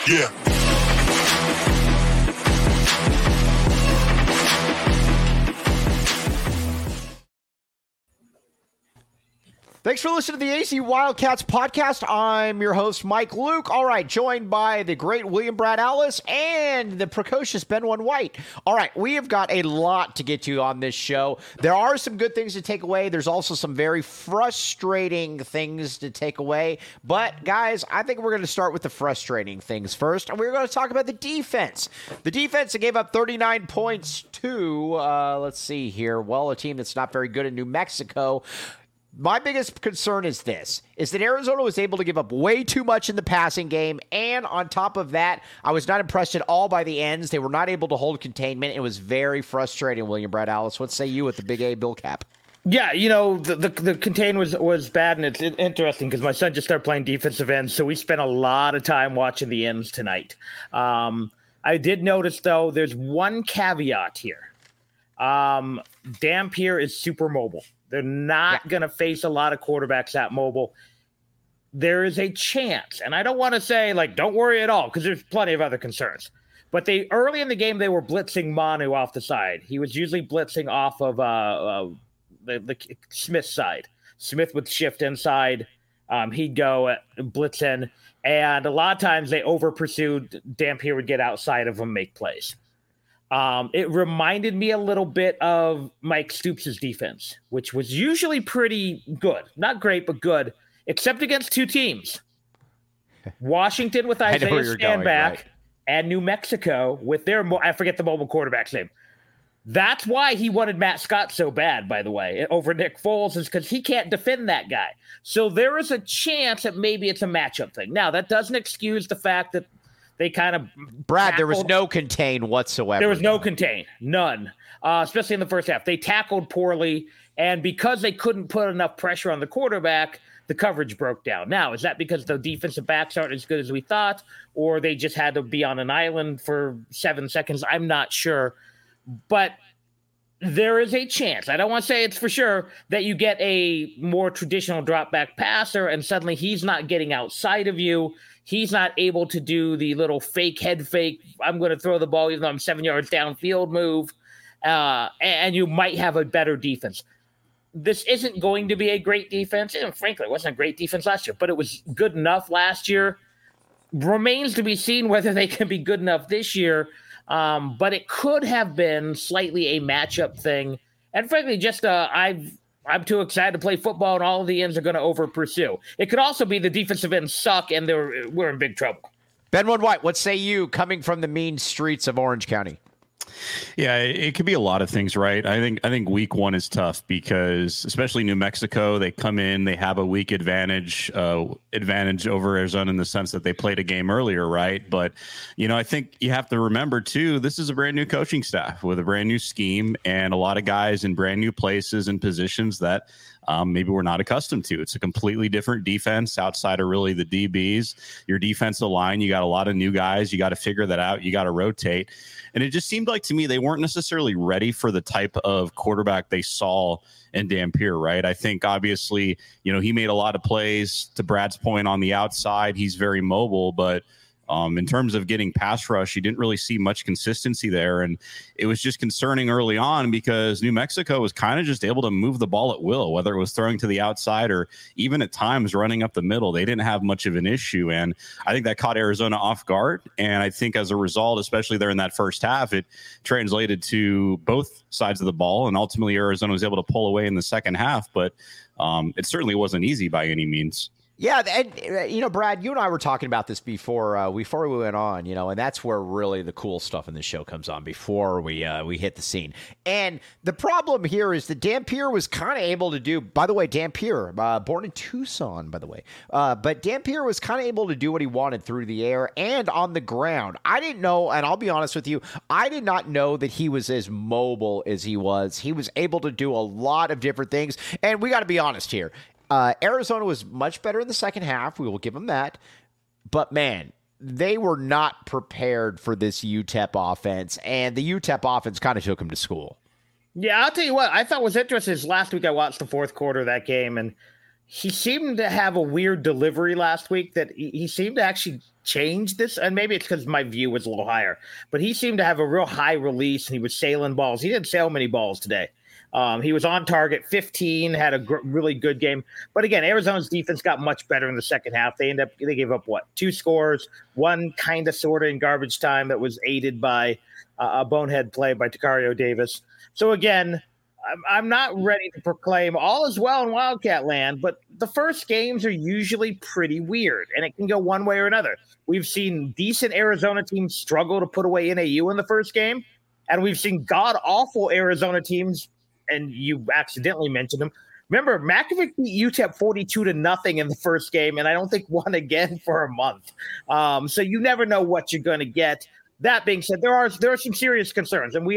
Yeah. Thanks for listening to the AC Wildcats podcast. I'm your host, Mike Luke. All right, joined by the great William Brad Ellis and the precocious Ben One White. All right, we have got a lot to get to on this show. There are some good things to take away. There's also some very frustrating things to take away. But, guys, I think we're going to start with the frustrating things first, and we're going to talk about the defense. The defense that gave up 39 points to, let's see here, well, a team that's not very good in New Mexico. My biggest concern is this, is that Arizona was able to give up way too much in the passing game, and on top of that, I was not impressed at all by the ends. They were not able to hold containment. It was very frustrating, William Brad Ellis. What say you with the Big A Bill Cap? Yeah, you know, the contain was bad, and it's interesting because my son just started playing defensive ends, so we spent a lot of time watching the ends tonight. I did notice, though, there's one caveat here. Dampier is super mobile. They're not going to face a lot of quarterbacks that mobile. There is a chance, and I don't want to say, like, don't worry at all, because there's plenty of other concerns. But early in the game, they were blitzing Manu off the side. He was usually blitzing off of the Smith side. Smith would shift inside. He'd go blitz in. And a lot of times they over-pursued. Dampier would get outside of them, make plays. It reminded me a little bit of Mike Stoops' defense, which was usually pretty good. Not great, but good, except against two teams. Washington with Isaiah Stanback and New Mexico with their, I forget the mobile quarterback's name. That's why he wanted Matt Scott so bad, by the way, over Nick Foles, is because he can't defend that guy. So there is a chance that maybe it's a matchup thing. Now, that doesn't excuse the fact that they kind of Brad, there was no contain whatsoever. There was no contain, none, especially in the first half. They tackled poorly, and because they couldn't put enough pressure on the quarterback, the coverage broke down. Now, is that because the defensive backs aren't as good as we thought, or they just had to be on an island for 7 seconds? I'm not sure, but there is a chance. I don't want to say it's for sure that you get a more traditional drop back passer, and suddenly he's not getting outside of you. He's not able to do the little fake head fake, I'm going to throw the ball even though I'm 7 yards downfield move, and you might have a better defense. This isn't going to be a great defense. And frankly, it wasn't a great defense last year, but it was good enough last year. Remains to be seen whether they can be good enough this year, but it could have been slightly a matchup thing. And frankly, just I'm too excited to play football, and all of the ends are going to over-pursue. It could also be the defensive ends suck, and we're in big trouble. Ben One White, what say you coming from the mean streets of Orange County? Yeah, it could be a lot of things, right? I think week one is tough because, especially New Mexico, they come in, they have a week advantage over Arizona in the sense that they played a game earlier, right? But, I think you have to remember, too, this is a brand new coaching staff with a brand new scheme and a lot of guys in brand new places and positions that maybe we're not accustomed to. It's a completely different defense outside of really the DBs. Your defensive line, you got a lot of new guys. You got to figure that out. You got to rotate. And it just seemed like to me they weren't necessarily ready for the type of quarterback they saw in Dampier, right? I think obviously, he made a lot of plays. To Brad's point, on the outside, he's very mobile, but in terms of getting pass rush, you didn't really see much consistency there. And it was just concerning early on because New Mexico was kind of just able to move the ball at will, whether it was throwing to the outside or even at times running up the middle. They didn't have much of an issue. And I think that caught Arizona off guard. And I think as a result, especially there in that first half, it translated to both sides of the ball. And ultimately, Arizona was able to pull away in the second half. But it certainly wasn't easy by any means. Yeah, and Brad, you and I were talking about this before we went on, and that's where really the cool stuff in the show comes on before we hit the scene. And the problem here is that Dampier was kind of able to do. By the way, Dampier, born in Tucson, by the way, but Dampier was kind of able to do what he wanted through the air and on the ground. I didn't know, and I'll be honest with you, I did not know that he was as mobile as he was. He was able to do a lot of different things, and we got to be honest here. Arizona was much better in the second half. We will give them that. But, man, they were not prepared for this UTEP offense, and the UTEP offense kind of took them to school. Yeah, I'll tell you what. I thought was interesting is last week I watched the fourth quarter of that game, and he seemed to have a weird delivery last week that he seemed to actually change this. And maybe it's because my view was a little higher, but he seemed to have a real high release and he was sailing balls. He didn't sail many balls today. He was on target 15, had a really good game. But again, Arizona's defense got much better in the second half. They gave up 2 scores, one kind of sort of in garbage time that was aided by a bonehead play by Tacario Davis. So again, I'm not ready to proclaim all is well in Wildcat land, but the first games are usually pretty weird, and it can go one way or another. We've seen decent Arizona teams struggle to put away NAU in the first game, and we've seen god-awful Arizona teams, and you accidentally mentioned them. Remember, Mackovic beat UTEP 42-0 in the first game, and I don't think won again for a month. So you never know what you're going to get. That being said, there are some serious concerns, and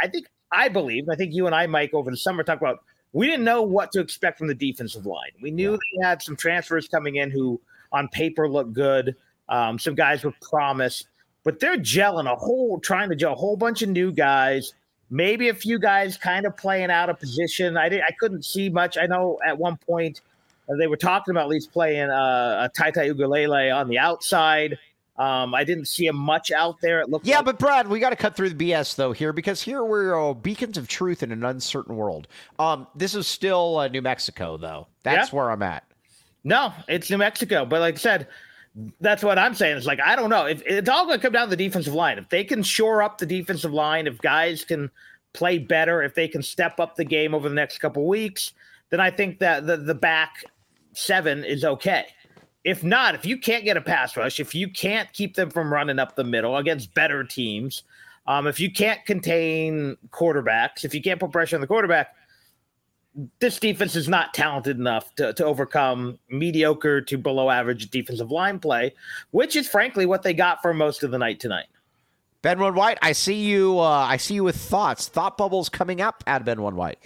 I believe, I think you and I, Mike, over the summer talked about, we didn't know what to expect from the defensive line. We knew they had some transfers coming in who on paper looked good, some guys with promise, but they're trying to gel a whole bunch of new guys, maybe a few guys kind of playing out of position. I couldn't see much. I know at one point they were talking about at least playing a Taitai Ugalele on the outside. I didn't see him much out there. It looked but Brad, we got to cut through the BS though here, because here we're beacons of truth in an uncertain world. This is still New Mexico though. That's where I'm at. No, it's New Mexico. But like I said, that's what I'm saying. It's like, I don't know. If it's all going to come down to the defensive line. If they can shore up the defensive line, if guys can play better, if they can step up the game over the next couple of weeks, then I think that the back 7 is okay. If not, if you can't get a pass rush, if you can't keep them from running up the middle against better teams, if you can't contain quarterbacks, if you can't put pressure on the quarterback, this defense is not talented enough to overcome mediocre to below average defensive line play, which is frankly what they got for most of the night tonight. Ben One White, I see you. I see you with thought bubbles coming up at Ben One White.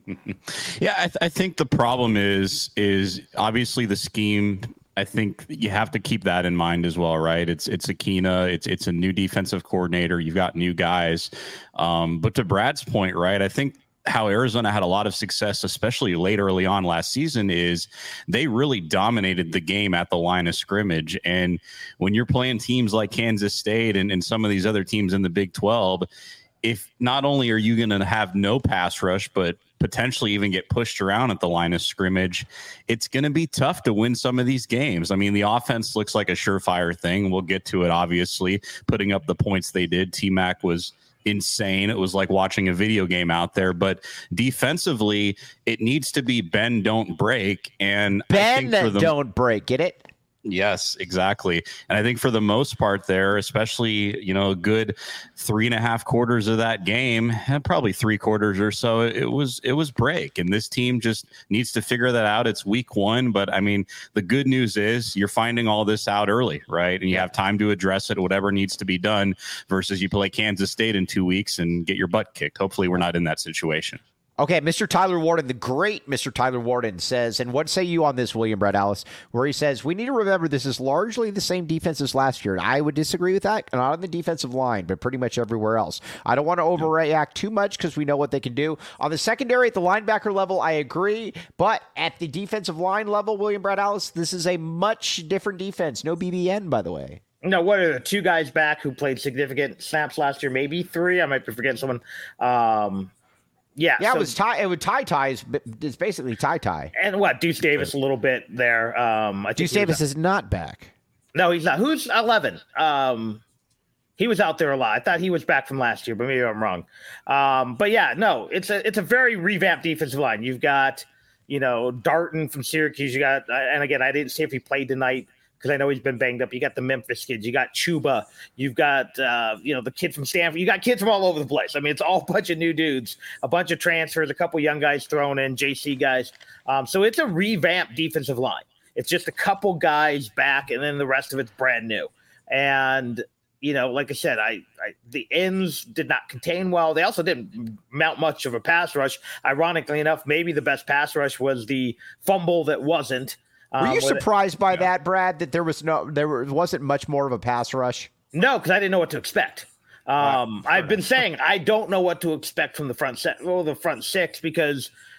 Yeah, I think the problem is obviously the scheme. I think you have to keep that in mind as well, right? It's Akina, it's a new defensive coordinator. You've got new guys, but to Brad's point, right? I think how Arizona had a lot of success, especially late early on last season, is they really dominated the game at the line of scrimmage. And when you're playing teams like Kansas State and some of these other teams in the Big 12, if not only are you going to have no pass rush, but potentially even get pushed around at the line of scrimmage, it's going to be tough to win some of these games. I mean, the offense looks like a surefire thing. We'll get to it, obviously, putting up the points they did. T-Mac was insane. It was like watching a video game out there. But defensively, it needs to be bend, don't break. And don't break. Get it? Yes, exactly. And I think for the most part there, especially, a good 3.5 quarters of that game, and probably 3 quarters or so, it was break. And this team just needs to figure that out. It's week 1. But I mean, the good news is you're finding all this out early, right? And you have time to address it, whatever needs to be done, versus you play Kansas State in 2 weeks and get your butt kicked. Hopefully we're not in that situation. Okay, Mr. Tyler Warden, the great Mr. Tyler Warden says, and what say you on this, William Brad Allis, where he says, we need to remember this is largely the same defense as last year. And I would disagree with that, not on the defensive line, but pretty much everywhere else. I don't want to overreact too much because we know what they can do. On the secondary, at the linebacker level, I agree. But at the defensive line level, William Brad Allis, this is a much different defense. No BBN, by the way. No, what are the 2 guys back who played significant snaps last year? Maybe 3. I might be forgetting someone. Yeah, so, it was Ty. It's basically Ty. And what, Deuce Davis a little bit there. Deuce Davis is not back. No, he's not. Who's 11? He was out there a lot. I thought he was back from last year, but maybe I'm wrong. But yeah, no, it's a very revamped defensive line. You've got, Darton from Syracuse. You got, and again, I didn't see if he played tonight, because I know he's been banged up. You got the Memphis kids. You got Chuba. You've got, the kid from Stanford. You got kids from all over the place. I mean, it's all a bunch of new dudes, a bunch of transfers, a couple young guys thrown in, JC guys. So it's a revamped defensive line. It's just a couple guys back, and then the rest of it's brand new. And, like I said, the ends did not contain well. They also didn't mount much of a pass rush. Ironically enough, maybe the best pass rush was the fumble that wasn't. Were you surprised by that, Brad, that there wasn't much more of a pass rush? No, because I didn't know what to expect. I've been saying I don't know what to expect from the front 6 because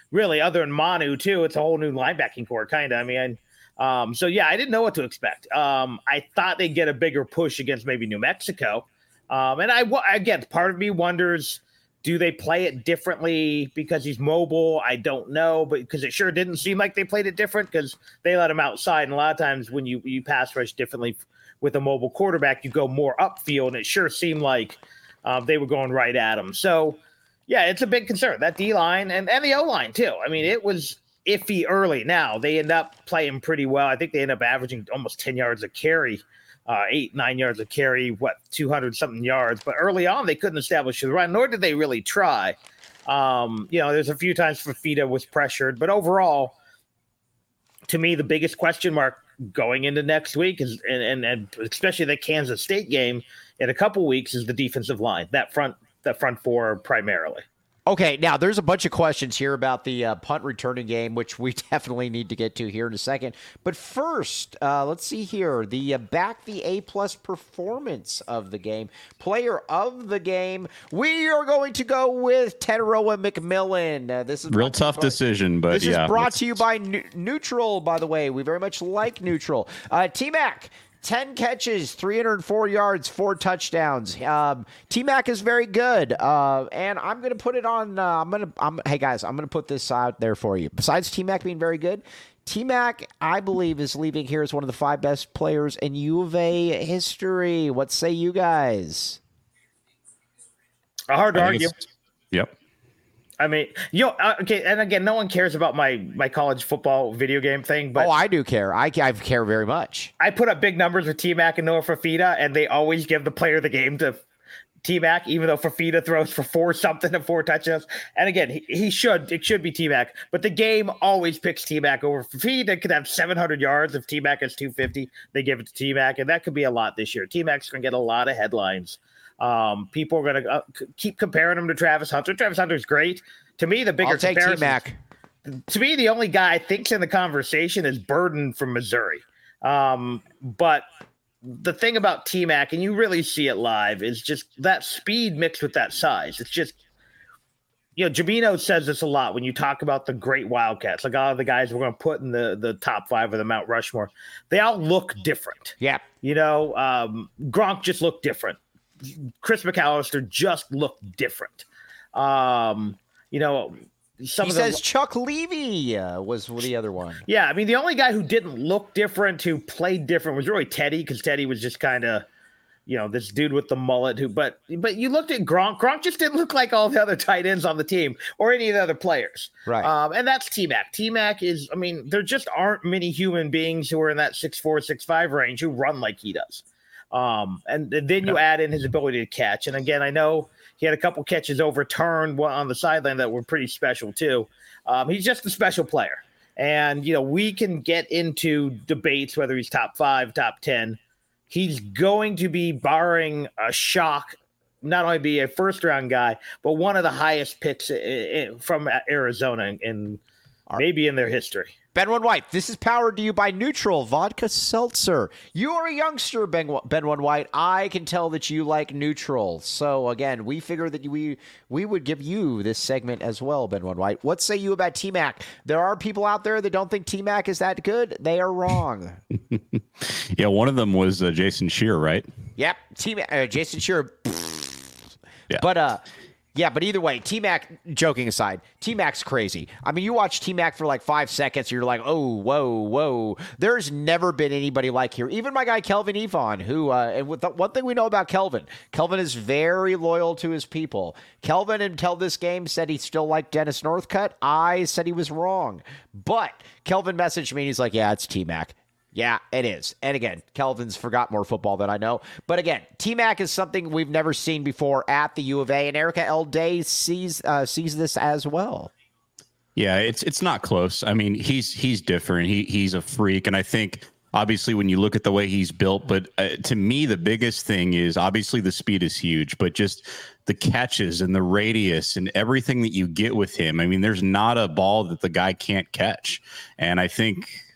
really, other than Manu too, it's a whole new linebacking core, kind of. I mean, so yeah, I didn't know what to expect. I thought they'd get a bigger push against maybe New Mexico, and again, part of me wonders, do they play it differently because he's mobile? I don't know, but because it sure didn't seem like they played it different because they let him outside, and a lot of times when you pass rush differently with a mobile quarterback, you go more upfield, and it sure seemed like they were going right at him. So. Yeah, it's a big concern. That D-line and the O-line, too. I mean, it was iffy early. Now, they end up playing pretty well. I think they end up averaging almost 10 yards a carry, 8-9 yards a carry, 200-something yards. But early on, they couldn't establish the run, nor did they really try. There's a few times Fafita was pressured. But overall, to me, the biggest question mark going into next week is, and especially the Kansas State game in a couple weeks, is the defensive line, that front four primarily. Okay, now there's a bunch of questions here about the punt returning game, which we definitely need to get to here in a second. But first, let's see here. The A-plus performance of the game, player of the game. We are going to go with Teteroa McMillan. This is real tough decision, but this is brought to you by Neutral, by the way. We very much like Neutral. T-Mac. 10 catches, 304 yards, 4 touchdowns. T-Mac is very good. And I'm going to put it on. Hey, guys, I'm going to put this out there for you. Besides T-Mac being very good, T-Mac, I believe, is leaving here as one of the 5 best players in U of A history. What say you guys? Hard to argue. Yep. I mean, okay, and again, no one cares about my college football video game thing, but I do care. I care very much. I put up big numbers with T-Mac and Noah Fafita, and they always give the player of the game to T-Mac, even though Fafita throws for 4-something and 4 touchdowns. And again, it should be T-Mac, but the game always picks T-Mac over Fafita. Could have 700 yards if T-Mac has 250. They give it to T-Mac, and that could be a lot this year. T-Mac's going to get a lot of headlines. People are going to keep comparing him to Travis Hunter. Travis Hunter's great. To me, the bigger comparison. T-Mac. To me, the only guy I think's in the conversation is Burden from Missouri. But the thing about T-Mac, and you really see it live, is just that speed mixed with that size. It's just, Jamino says this a lot when you talk about the great Wildcats, like all the guys we're going to put in the top 5 of the Mount Rushmore. They all look different. Yeah. Gronk just looked different. Chris McAllister just looked different. He says Chuck Levy was the other one. Yeah, I mean, the only guy who didn't look different, who played different, was really Teddy, because Teddy was just kind of, this dude with the mullet. But you looked at Gronk. Gronk just didn't look like all the other tight ends on the team or any of the other players. Right. And that's T-Mac. T-Mac is, I mean, there just aren't many human beings who are in that 6'4", 6'5" range who run like he does. And then you add in his ability to catch. And again, I know he had a couple catches overturned on the sideline that were pretty special too. He's just a special player. And, we can get into debates whether he's top 5, top 10. He's going to be, barring a shock, not only be a first-round guy, but one of the highest picks from Arizona in maybe in their history. Ben One White, this is powered to you by Neutral Vodka Seltzer. You are a youngster, Ben One White. I can tell that you like Neutral. So, again, we figure that we would give you this segment as well, Ben One White. What say you about T-Mac? There are people out there that don't think T-Mac is that good. They are wrong. Yeah, one of them was Jason Shearer, right? Yep, Jason Shearer. Yeah. But either way, T-Mac, joking aside, T-Mac's crazy. I mean, you watch T-Mac for like 5 seconds, you're like, oh, whoa. There's never been anybody like here. Even my guy Kelvin Evon, who, and with the one thing we know about Kelvin is very loyal to his people. Kelvin, until this game, said he still liked Dennis Northcutt. I said he was wrong. But Kelvin messaged me, and he's like, yeah, it's T-Mac. Yeah, it is. And again, Kelvin's forgot more football than I know. But again, T-Mac is something we've never seen before at the U of A, and Erica L. Day sees this as well. Yeah, it's not close. I mean, he's different. He's a freak, and I think obviously when you look at the way he's built, but to me the biggest thing is obviously the speed is huge, but just the catches and the radius and everything that you get with him. I mean, there's not a ball that the guy can't catch, and I think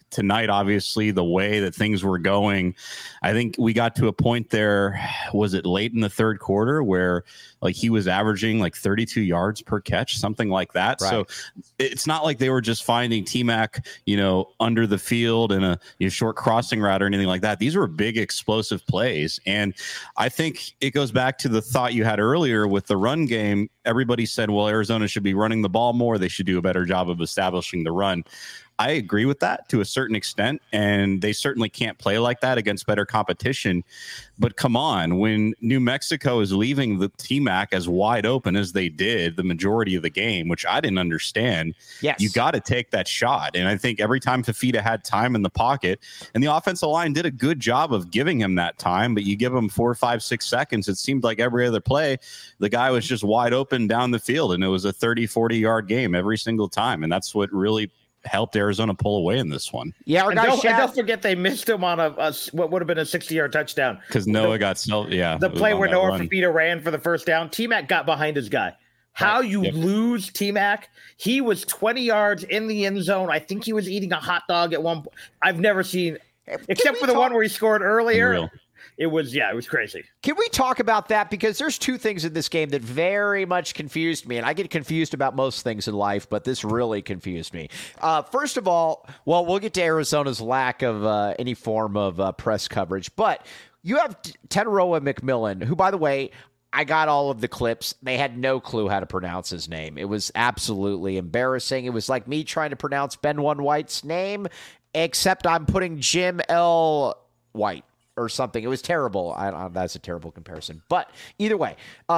tonight, obviously, the way that things were going, I think we got to a point there, was it late in the third quarter, where like he was averaging like 32 yards per catch, something like that. Right. So it's not like they were just finding T-Mac, under the field in a short crossing route or anything like that. These were big explosive plays. And I think it goes back to the thought you had earlier with the run game. Everybody said, well, Arizona should be running the ball more. They should do a better job of establishing the run. I agree with that to a certain extent, and they certainly can't play like that against better competition. But come on, when New Mexico is leaving the T-Mac as wide open as they did the majority of the game, which I didn't understand, yes, you got to take that shot. And I think every time Fifita had time in the pocket, and the offensive line did a good job of giving him that time, but you give him 4, 5, 6 seconds, it seemed like every other play, the guy was just wide open down the field, and it was a 30, 40-yard game every single time. And that's what really helped Arizona pull away in this one. Yeah, and don't forget they missed him on a what would have been a 60-yard touchdown because Noah got the play where Noah Fifita ran for the first down. T-Mac got behind his guy. How you lose T-Mac? He was 20 yards in the end zone. I think he was eating a hot dog at one point. I've never seen, except for the one where he scored earlier. Unreal. It was crazy. Can we talk about that? Because there's two things in this game that very much confused me, and I get confused about most things in life, but this really confused me. First of all, well, we'll get to Arizona's lack of any form of press coverage, but you have Tenaroa McMillan, who, by the way, I got all of the clips. They had no clue how to pronounce his name. It was absolutely embarrassing. It was like me trying to pronounce Ben One White's name, except I'm putting Jim L. White or something. It was terrible. That's a terrible comparison. But either way,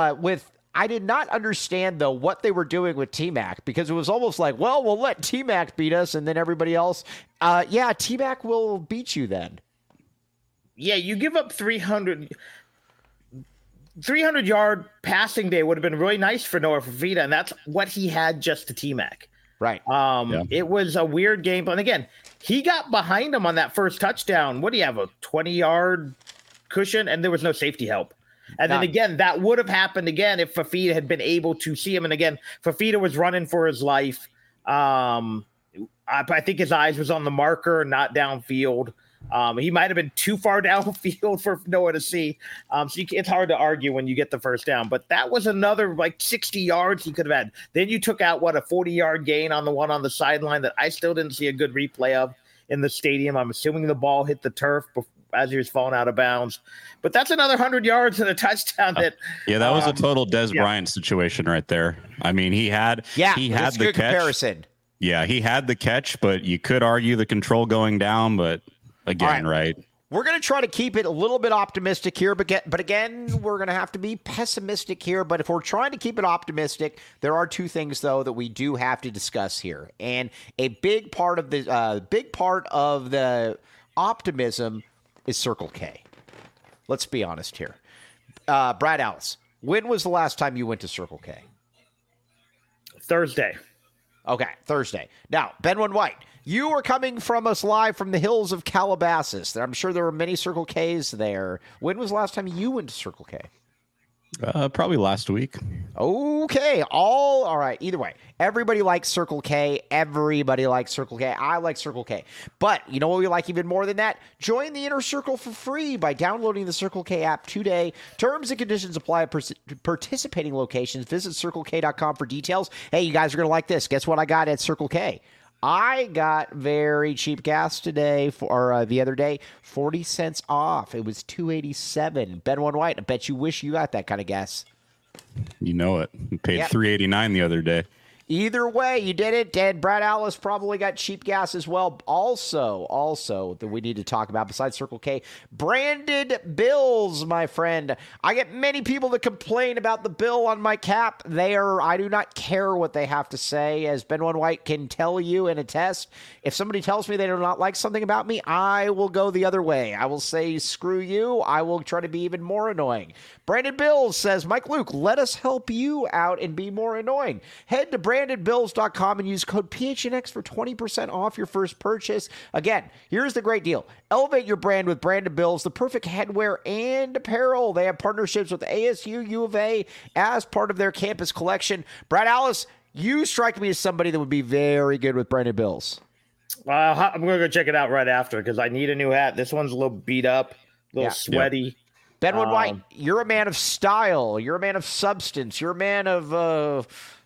I did not understand, though, what they were doing with T-Mac, because it was almost like, well, we'll let T-Mac beat us, and then everybody else, T-Mac will beat you then. Yeah, you give up 300-yard passing day would have been really nice for Noah Fifita, and that's what he had just to T-Mac. Right. It was a weird game. And again, he got behind him on that first touchdown. What do you have, a 20-yard cushion? And there was no safety help. And then again, that would have happened again if Fifita had been able to see him. And again, Fifita was running for his life. I think his eyes was on the marker, not downfield. He might have been too far downfield for Noah to see. It's hard to argue when you get the first down. But that was another 60 yards he could have had. Then you took out, a 40-yard gain on the one on the sideline that I still didn't see a good replay of in the stadium. I'm assuming the ball hit the turf as he was falling out of bounds. But that's another 100 yards and a touchdown. That was a total Dez Bryant situation right there. I mean, he had the good catch. Comparison. Yeah, he had the catch, but you could argue the control going down, but again, right. We're going to try to keep it a little bit optimistic here, but again, we're going to have to be pessimistic here. But if we're trying to keep it optimistic, there are two things, though, that we do have to discuss here. And a big part of the optimism is Circle K. Let's be honest here. Brad Allis, when was the last time you went to Circle K? Thursday. Okay, Thursday. Now, Ben One White, you are coming from us live from the hills of Calabasas. I'm sure there were many Circle Ks there. When was the last time you went to Circle K? Probably last week. Okay. All right. Either way, everybody likes Circle K. Everybody likes Circle K. I like Circle K. But you know what we like even more than that? Join the Inner Circle for free by downloading the Circle K app today. Terms and conditions apply at participating locations. Visit CircleK.com for details. Hey, you guys are going to like this. Guess what I got at Circle K? I got very cheap gas today the other day, 40 cents off. It was $2.87. Ben One White, I bet you wish you got that kind of gas. You know it. You paid $3.89 the other day. Either way, you did it. And Brad Allis probably got cheap gas as well. Also, that we need to talk about, besides Circle K, branded bills, my friend. I get many people that complain about the bill on my cap. I do not care what they have to say. As Ben One White can tell you and attest, if somebody tells me they do not like something about me, I will go the other way. I will say, screw you. I will try to be even more annoying. Branded Bills says, Mike Luke, let us help you out and be more annoying. Head to brandedbills.com and use code PHNX for 20% off your first purchase. Again, here's the great deal. Elevate your brand with Branded Bills, the perfect headwear and apparel. They have partnerships with ASU, U of A as part of their campus collection. Brad Allis, you strike me as somebody that would be very good with Branded Bills. I'm going to go check it out right after because I need a new hat. This one's a little beat up, a little sweaty. Benwood White, you're a man of style. You're a man of substance. You're a man of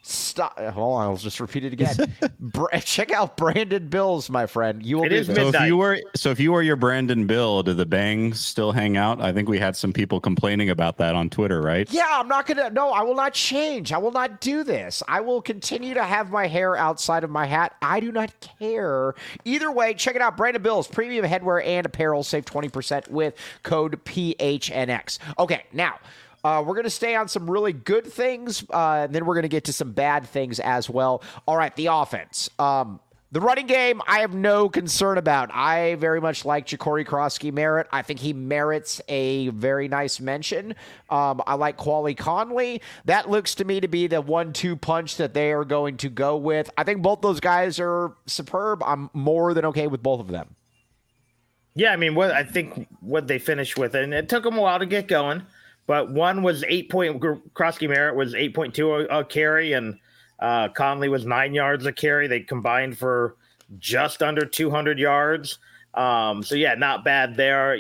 hold on, I'll just repeat it again. Check out Brandon Bills, my friend. You will be there. So if you were your Brandon Bill, do the bangs still hang out? I think we had some people complaining about that on Twitter, right? Yeah, I'm not gonna. No, I will not change. I will not do this. I will continue to have my hair outside of my hat. I do not care. Either way, check it out. Brandon Bills, premium headwear and apparel. Save 20% with code PHNX. Okay, now. We're going to stay on some really good things, and then we're going to get to some bad things as well. All right, the offense. The running game, I have no concern about. I very much like Ja'Cory Krosky-Merritt. I think he merits a very nice mention. I like Quali Conley. That looks to me to be the 1-2 punch that they are going to go with. I think both those guys are superb. I'm more than okay with both of them. Yeah, I mean, I think what they finished with, and it took them a while to get going. But one was Krosky-Merritt was 8.2 a carry, and Conley was 9 yards a carry. They combined for just under 200 yards. So, yeah, not bad there.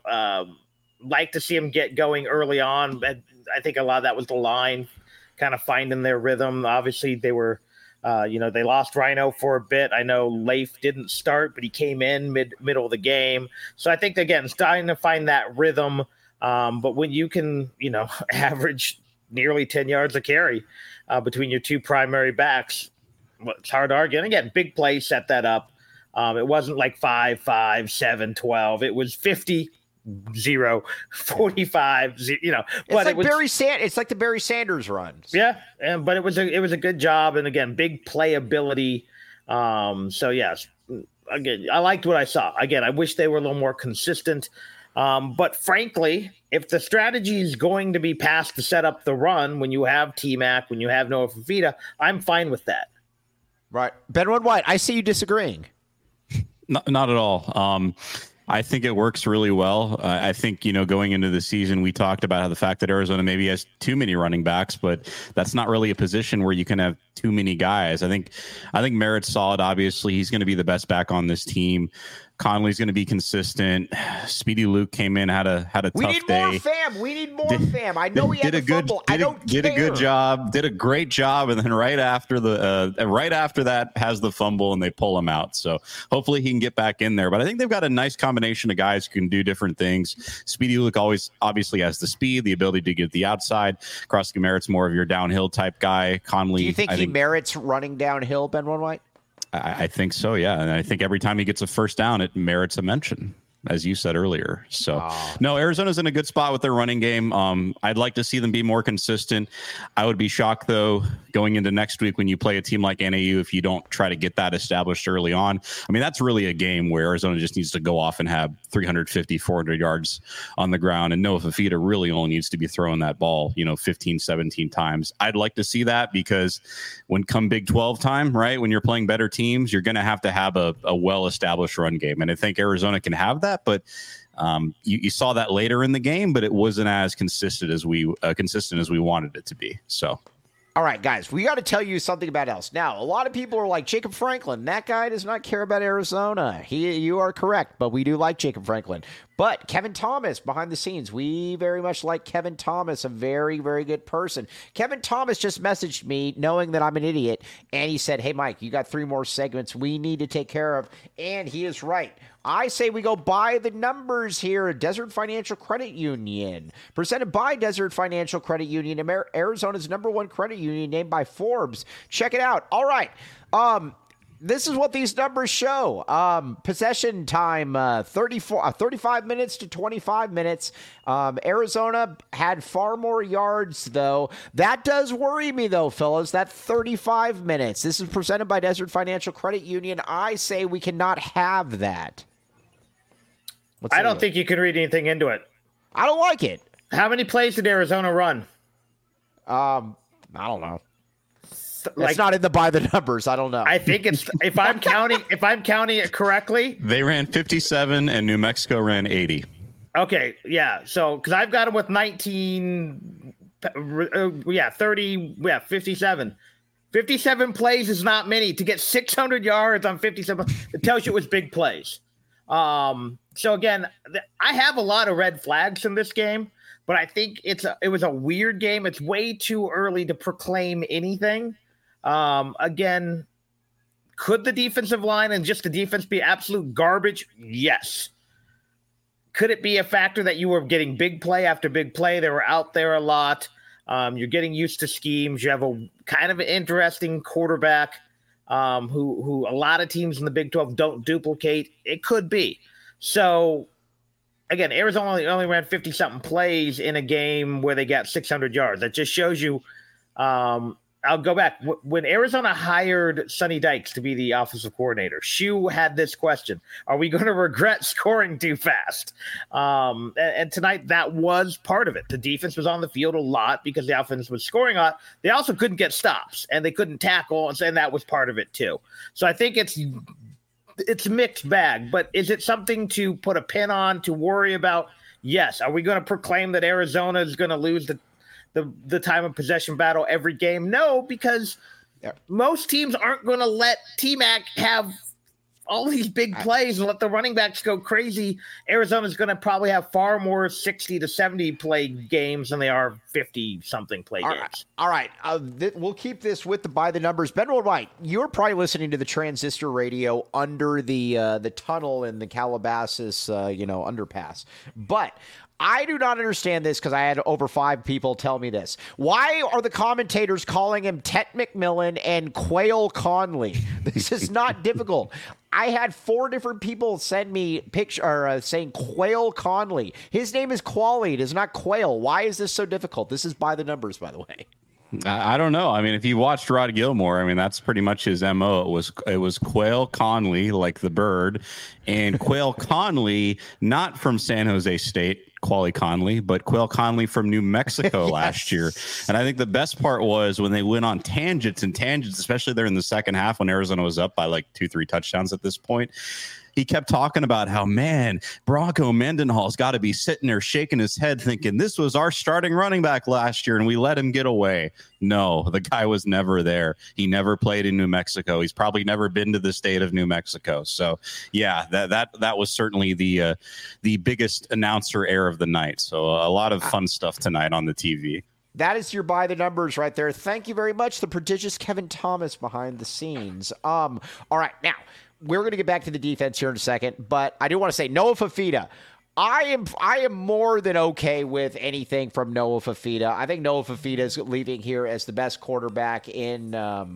Like to see him get going early on. I think a lot of that was the line kind of finding their rhythm. Obviously, they were, they lost Rhino for a bit. I know Leif didn't start, but he came in middle of the game. So I think, again, starting to find that rhythm. But when you can, average nearly 10 yards a carry between your two primary backs, it's hard to argue. And again, big play set that up. It wasn't like 5, 5, 7, 12. It was 50, 0, 45, 0, But it's like the Barry Sanders runs. Yeah, but it was a good job. And again, big playability. So, yes, again, I liked what I saw. Again, I wish they were a little more consistent. But frankly, if the strategy is going to be passed to set up the run when you have T-Mac, when you have Noah Fifita, I'm fine with that. Right. Benwood White, I see you disagreeing. Not at all. I think it works really well. I think, going into the season, we talked about how the fact that Arizona maybe has too many running backs, but that's not really a position where you can have too many guys. I think Merritt's solid. Obviously, he's going to be the best back on this team. Conley's going to be consistent. Speedy Luke came in, had a tough day. We need more fam. We need more fam. I know he had a fumble. I don't care. Did a good job. Did a great job, and then right after that has the fumble, and they pull him out. So hopefully he can get back in there. But I think they've got a nice combination of guys who can do different things. Speedy Luke always obviously has the speed, the ability to get the outside. Krosky-Merritt's more of your downhill type guy. Conley. Do you think he merits running downhill, Ben White? I think so, yeah. And I think every time he gets a first down, it merits a mention, as you said earlier. So, no, Arizona's in a good spot with their running game. I'd like to see them be more consistent. I would be shocked, though, going into next week when you play a team like NAU if you don't try to get that established early on. I mean, that's really a game where Arizona just needs to go off and have 350, 400 yards on the ground. And Noah Fifita really only needs to be throwing that ball, 15, 17 times. I'd like to see that because when come Big 12 time, right, when you're playing better teams, you're going to have a well-established run game. And I think Arizona can have that, but you saw that later in the game, but it wasn't as consistent as we wanted it to be. So, all right, guys, we got to tell you something about else. Now, a lot of people are like, Jacob Franklin, that guy does not care about Arizona. You are correct, but we do like Jacob Franklin. But Kevin Thomas, behind the scenes, we very much like Kevin Thomas, a very, very good person. Kevin Thomas just messaged me knowing that I'm an idiot, and he said, hey, Mike, you got 3 more segments we need to take care of, and he is right. I say we go by the numbers here. Desert Financial Credit Union, presented by Desert Financial Credit Union, Arizona's #1 credit union, named by Forbes. Check it out. All right. This is what these numbers show. Possession time, 35 minutes to 25 minutes. Arizona had far more yards, though. That does worry me, though, fellas, that 35 minutes. This is presented by Desert Financial Credit Union. I say we cannot have that. I don't think you can read anything into it. I don't like it. How many plays did Arizona run? I don't know. It's not in the by the numbers. I don't know. I think it's if I'm counting it correctly. They ran 57 and New Mexico ran 80. Okay, yeah. So because I've got them with 19, 30, 57. 57 plays is not many. To get 600 yards on 57, it tells you it was big plays. So again, I have a lot of red flags in this game, but I think it was a weird game. It's way too early to proclaim anything. Again, could the defensive line and just the defense be absolute garbage? Yes. Could it be a factor that you were getting big play after big play? They were out there a lot. You're getting used to schemes. You have a kind of an interesting quarterback who a lot of teams in the Big 12 don't duplicate. It could be. So, again, Arizona only ran 50-something plays in a game where they got 600 yards. That just shows you I'll go back. When Arizona hired Sonny Dykes to be the offensive coordinator, Shue had this question: are we going to regret scoring too fast? And tonight, that was part of it. The defense was on the field a lot because the offense was scoring a lot. They also couldn't get stops, and they couldn't tackle, and that was part of it too. So I think it's a mixed bag. But is it something to put a pin on, to worry about? Yes. Are we going to proclaim that Arizona is going to lose the time of possession battle every game? No, because most teams aren't going to let T-Mac have all these big plays and let the running backs go crazy. Arizona's going to probably have far more 60 to 70 play games than they are 50-something play games. All right. We'll keep this with the by the numbers. Ben White, you're probably listening to the transistor radio under the tunnel in the Calabasas underpass. But I do not understand this because I had over 5 people tell me this. Why are the commentators calling him Tet McMillan and Quail Conley? This is not difficult. I had 4 different people send me saying Quail Conley. His name is Quali. It is not Quail. Why is this so difficult? This is by the numbers, by the way. I don't know. I mean, if you watched Rod Gilmore, I mean, that's pretty much his MO. It was Quail Conley, like the bird, and Quail Conley, not from San Jose State, Quali Conley, but Quail Conley from New Mexico last year. And I think the best part was when they went on tangents, especially there in the second half when Arizona was up by like 2-3 touchdowns at this point. He kept talking about how, man, Bronco Mendenhall's got to be sitting there shaking his head thinking this was our starting running back last year and we let him get away. No, the guy was never there. He never played in New Mexico. He's probably never been to the state of New Mexico. So, yeah, that was certainly the biggest announcer error of the night. So a lot of fun stuff tonight on the TV. That is your by the numbers right there. Thank you very much, the prodigious Kevin Thomas behind the scenes. All right, now, we're going to get back to the defense here in a second, but I do want to say Noah Fifita. I am more than okay with anything from Noah Fifita. I think Noah Fifita is leaving here as the best quarterback in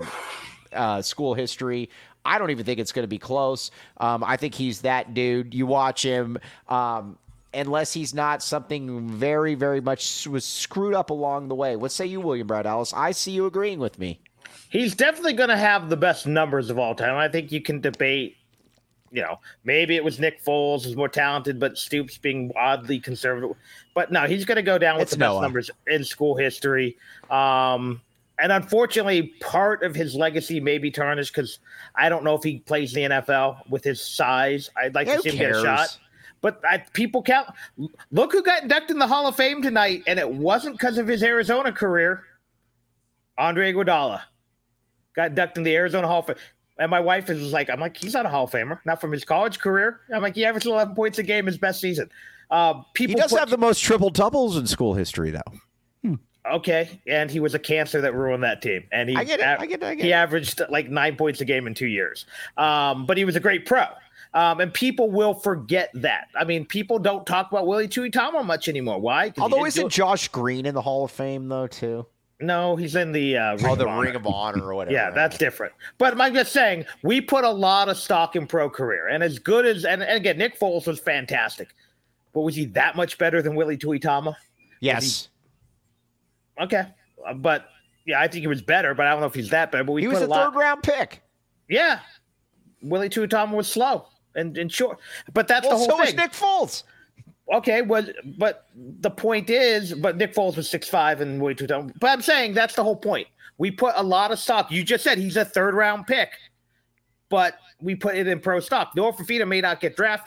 school history. I don't even think it's going to be close. I think he's that dude. You watch him, unless he's not something very, very much was screwed up along the way. What say you, William Brad Allis? I see you agreeing with me. He's definitely going to have the best numbers of all time. I think you can debate, maybe it was Nick Foles who's more talented, but Stoops being oddly conservative. But no, he's going to go down with the best numbers in school history. And unfortunately, part of his legacy may be tarnished because I don't know if he plays in the NFL with his size. I'd like to see him get a shot. But people count. Look who got inducted in the Hall of Fame tonight, and it wasn't because of his Arizona career. Andre Iguodala got inducted in the Arizona Hall of Fame. And my wife is like, I'm like, he's not a Hall of Famer, not from his college career. I'm like, he averaged 11 points a game his best season. He does have the most triple doubles in school history, though. Okay, and he was a cancer that ruined that team. And he, I get it. He averaged like 9 points a game in 2 years. But he was a great pro. And people will forget that. I mean, people don't talk about Willie Tuitama much anymore. Why? Although isn't Josh Green in the Hall of Fame, though, too? No, he's in the Ring of Honor or whatever. Yeah, that's different. But I'm just saying, we put a lot of stock in pro career. And as good as – and again, Nick Foles was fantastic. But was he that much better than Willie Tuitama? Yes. Okay. But, yeah, I think he was better, but I don't know if he's that better. But he was a third-round pick. Yeah. Willie Tuitama was slow and short. But that's the whole thing. So was Nick Foles. Okay, but the point is, but Nick Foles was 6'5" and way too dumb. But I'm saying that's the whole point. We put a lot of stock. You just said he's a third-round pick, but we put it in pro stock. Noah Fifita may not get drafted.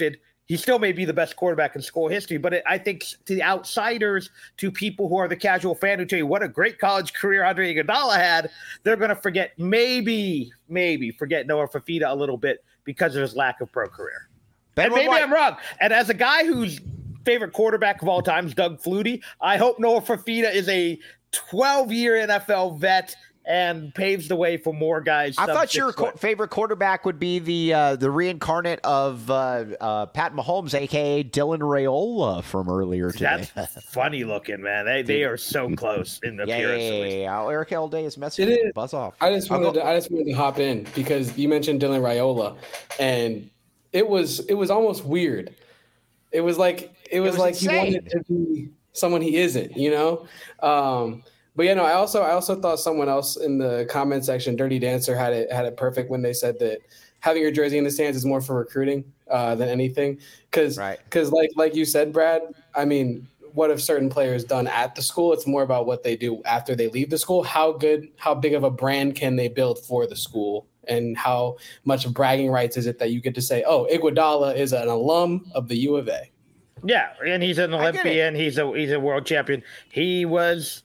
He still may be the best quarterback in school history, but I think to the outsiders, to people who are the casual fan who tell you what a great college career Andre Iguodala had, they're going to forget, maybe forget Noah Fifita a little bit because of his lack of pro career. And maybe I'm wrong. And as a guy whose favorite quarterback of all time is Doug Flutie, I hope Noah Fifita is a 12-year NFL vet and paves the way for more guys. I thought your favorite quarterback would be the reincarnate of Pat Mahomes, a.k.a. Dylan Raiola from earlier today. That's funny looking, man. They are so close in the appearance. Yeah. Eric Elday is messing with buzz off. I just wanted to hop in because you mentioned Dylan Raiola, and it was almost weird. It was like he wanted to be someone he isn't, you know? But yeah, no, I also thought someone else in the comment section, Dirty Dancer, had it perfect when they said that having your jersey in the stands is more for recruiting than anything. Because like you said, Brad, I mean, what have certain players done at the school? It's more about what they do after they leave the school. How big of a brand can they build for the school? And how much of bragging rights is it that you get to say, oh, Iguodala is an alum of the U of A? Yeah, and he's an Olympian. He's a world champion. He was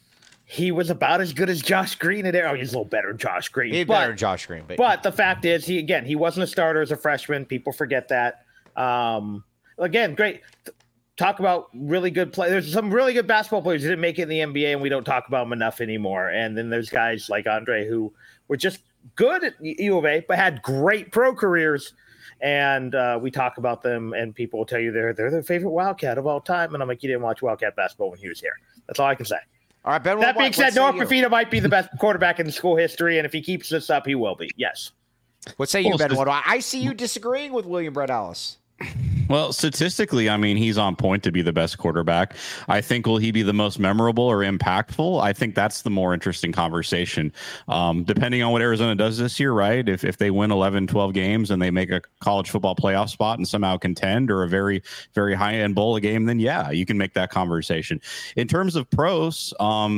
about as good as Josh Green in there. Oh, he's a little better than Josh Green. He's better than Josh Green. But the fact is, he wasn't a starter as a freshman. People forget that. Again, great. Talk about really good play. There's some really good basketball players who didn't make it in the NBA, and we don't talk about them enough anymore. And then there's guys like Andre who were just good at U of A, but had great pro careers. And we talk about them, and people will tell you they're their favorite Wildcat of all time. And I'm like, you didn't watch Wildcat basketball when he was here. That's all I can say. All right, Ben. That being said, Noah Fifita might be the best quarterback in school history, and if he keeps this up, he will be. Yes. What say you, Ben? I see you disagreeing with William Brett Ellis. Well, statistically, I mean, he's on point to be the best quarterback. I think, will he be the most memorable or impactful? I think that's the more interesting conversation. Depending on what Arizona does this year, right? If they win 11, 12 games and they make a college football playoff spot and somehow contend, or a very, very high-end bowl game, then yeah, you can make that conversation. In terms of pros,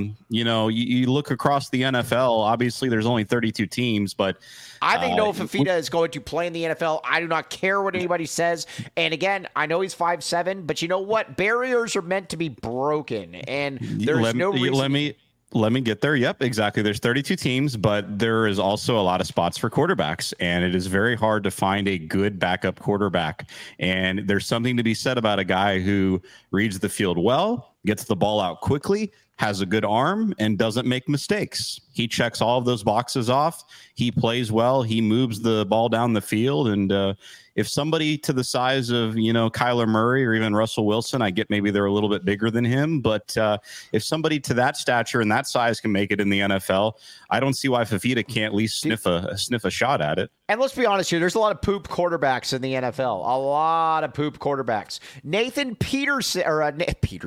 you look across the NFL, obviously there's only 32 teams, but I think Noah Fifita is going to play in the NFL. I do not care what anybody says. And again, I know he's 5'7", but you know what? Barriers are meant to be broken, and there's no reason. Let me get there. Yep, exactly. There's 32 teams, but there is also a lot of spots for quarterbacks, and it is very hard to find a good backup quarterback. And there's something to be said about a guy who reads the field well, gets the ball out quickly, has a good arm, and doesn't make mistakes. He checks all of those boxes off. He plays well. He moves the ball down the field. And if somebody to the size of, Kyler Murray or even Russell Wilson, I get maybe they're a little bit bigger than him. But if somebody to that stature and that size can make it in the NFL, I don't see why Fifita can't at least sniff a shot at it. And let's be honest here, there's a lot of poop quarterbacks in the NFL. A lot of poop quarterbacks. Nathan Peterman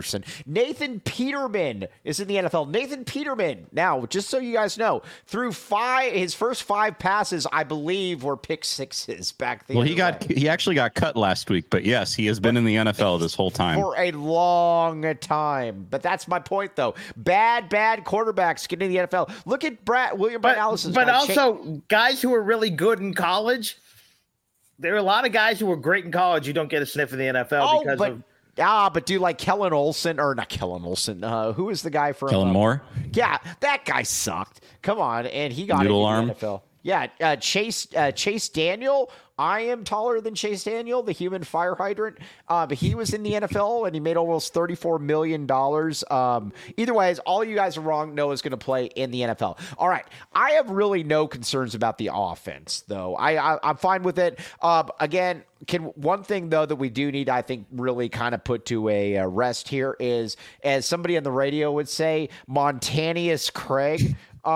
is in the NFL. Nathan Peterman, now, just so you guys know, through his first 5 passes, I believe, were pick sixes back then. Well, he actually got cut last week, but yes, he has been in the NFL this whole time. For a long time. But that's my point, though. Bad quarterbacks get in the NFL. Look at William Brett Ellis. But also, guys who are really good in college, there are a lot of guys who are great in college who don't get a sniff in the NFL but do like Kellen Olsen, or not Kellen Olsen. Who is the guy from Kellen Moore? Yeah, that guy sucked. Come on, and he got Noodle into arm. the NFL. Yeah, Chase Daniel. I am taller than Chase Daniel, the human fire hydrant. But he was in the NFL, and he made almost $34 million. Either way, all you guys are wrong. Noah's going to play in the NFL. All right. I have really no concerns about the offense, though. I'm fine with it. Again, one thing, though, that we do need, I think, really kind of put to a rest here is, as somebody on the radio would say, Montanius Craig.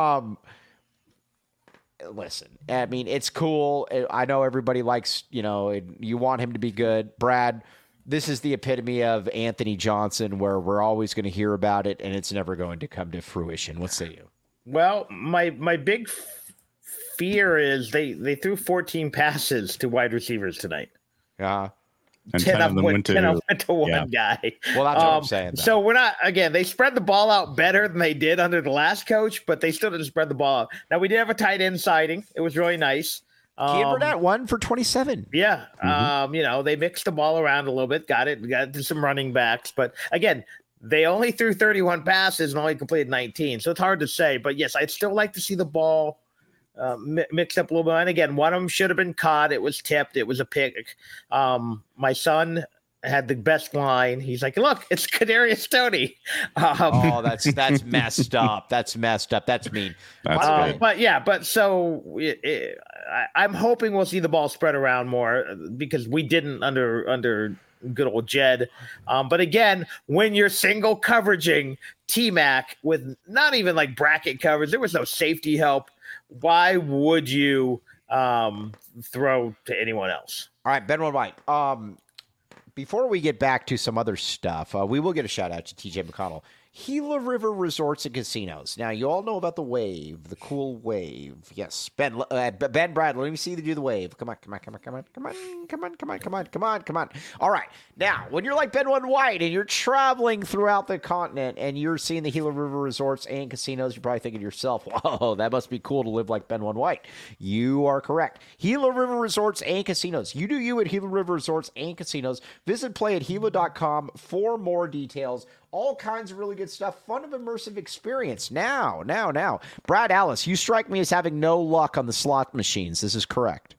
Listen, I mean, it's cool. I know everybody likes, you want him to be good. Brad, this is the epitome of Anthony Johnson, where we're always going to hear about it, and it's never going to come to fruition. What say you? Well, my big fear is they threw 14 passes to wide receivers tonight. Yeah. And 10 of them went to one guy. Well, that's what I'm saying, though. So we're not, again, they spread the ball out better than they did under the last coach, but they still didn't spread the ball out. Now, we did have a tight end sighting. It was really nice. Kean Burnett 1 for 27. Yeah. They mixed the ball around a little bit, got to some running backs. But again, they only threw 31 passes and only completed 19. So it's hard to say. But yes, I'd still like to see the ball mixed up a little bit. And again, one of them should have been caught. It was tipped. It was a pick. My son had the best line. He's like, "Look, it's Kadarius Toney." That's messed up. That's messed up. That's mean. That's good. I'm hoping we'll see the ball spread around more because we didn't under good old Jed. But again, when you're single coveraging T-Mac with not even like bracket coverage, there was no safety help. Why would you throw to anyone else? All right, Ben White. Before we get back to some other stuff, we will get a shout out to TJ McConnell. Gila River Resorts and Casinos. Now, you all know about the wave, the cool wave. Yes, Ben Bradley, let me see you do the wave. Come on. All right. Now, when you're like Ben White and you're traveling throughout the continent and you're seeing the Gila River Resorts and Casinos, you're probably thinking to yourself, whoa, that must be cool to live like Ben White. You are correct. Gila River Resorts and Casinos. You do you at Gila River Resorts and Casinos. Visit playatgila.com for more details. All kinds of really good stuff. Fun of immersive experience. Now. Brad Alice, you strike me as having no luck on the slot machines. This is correct.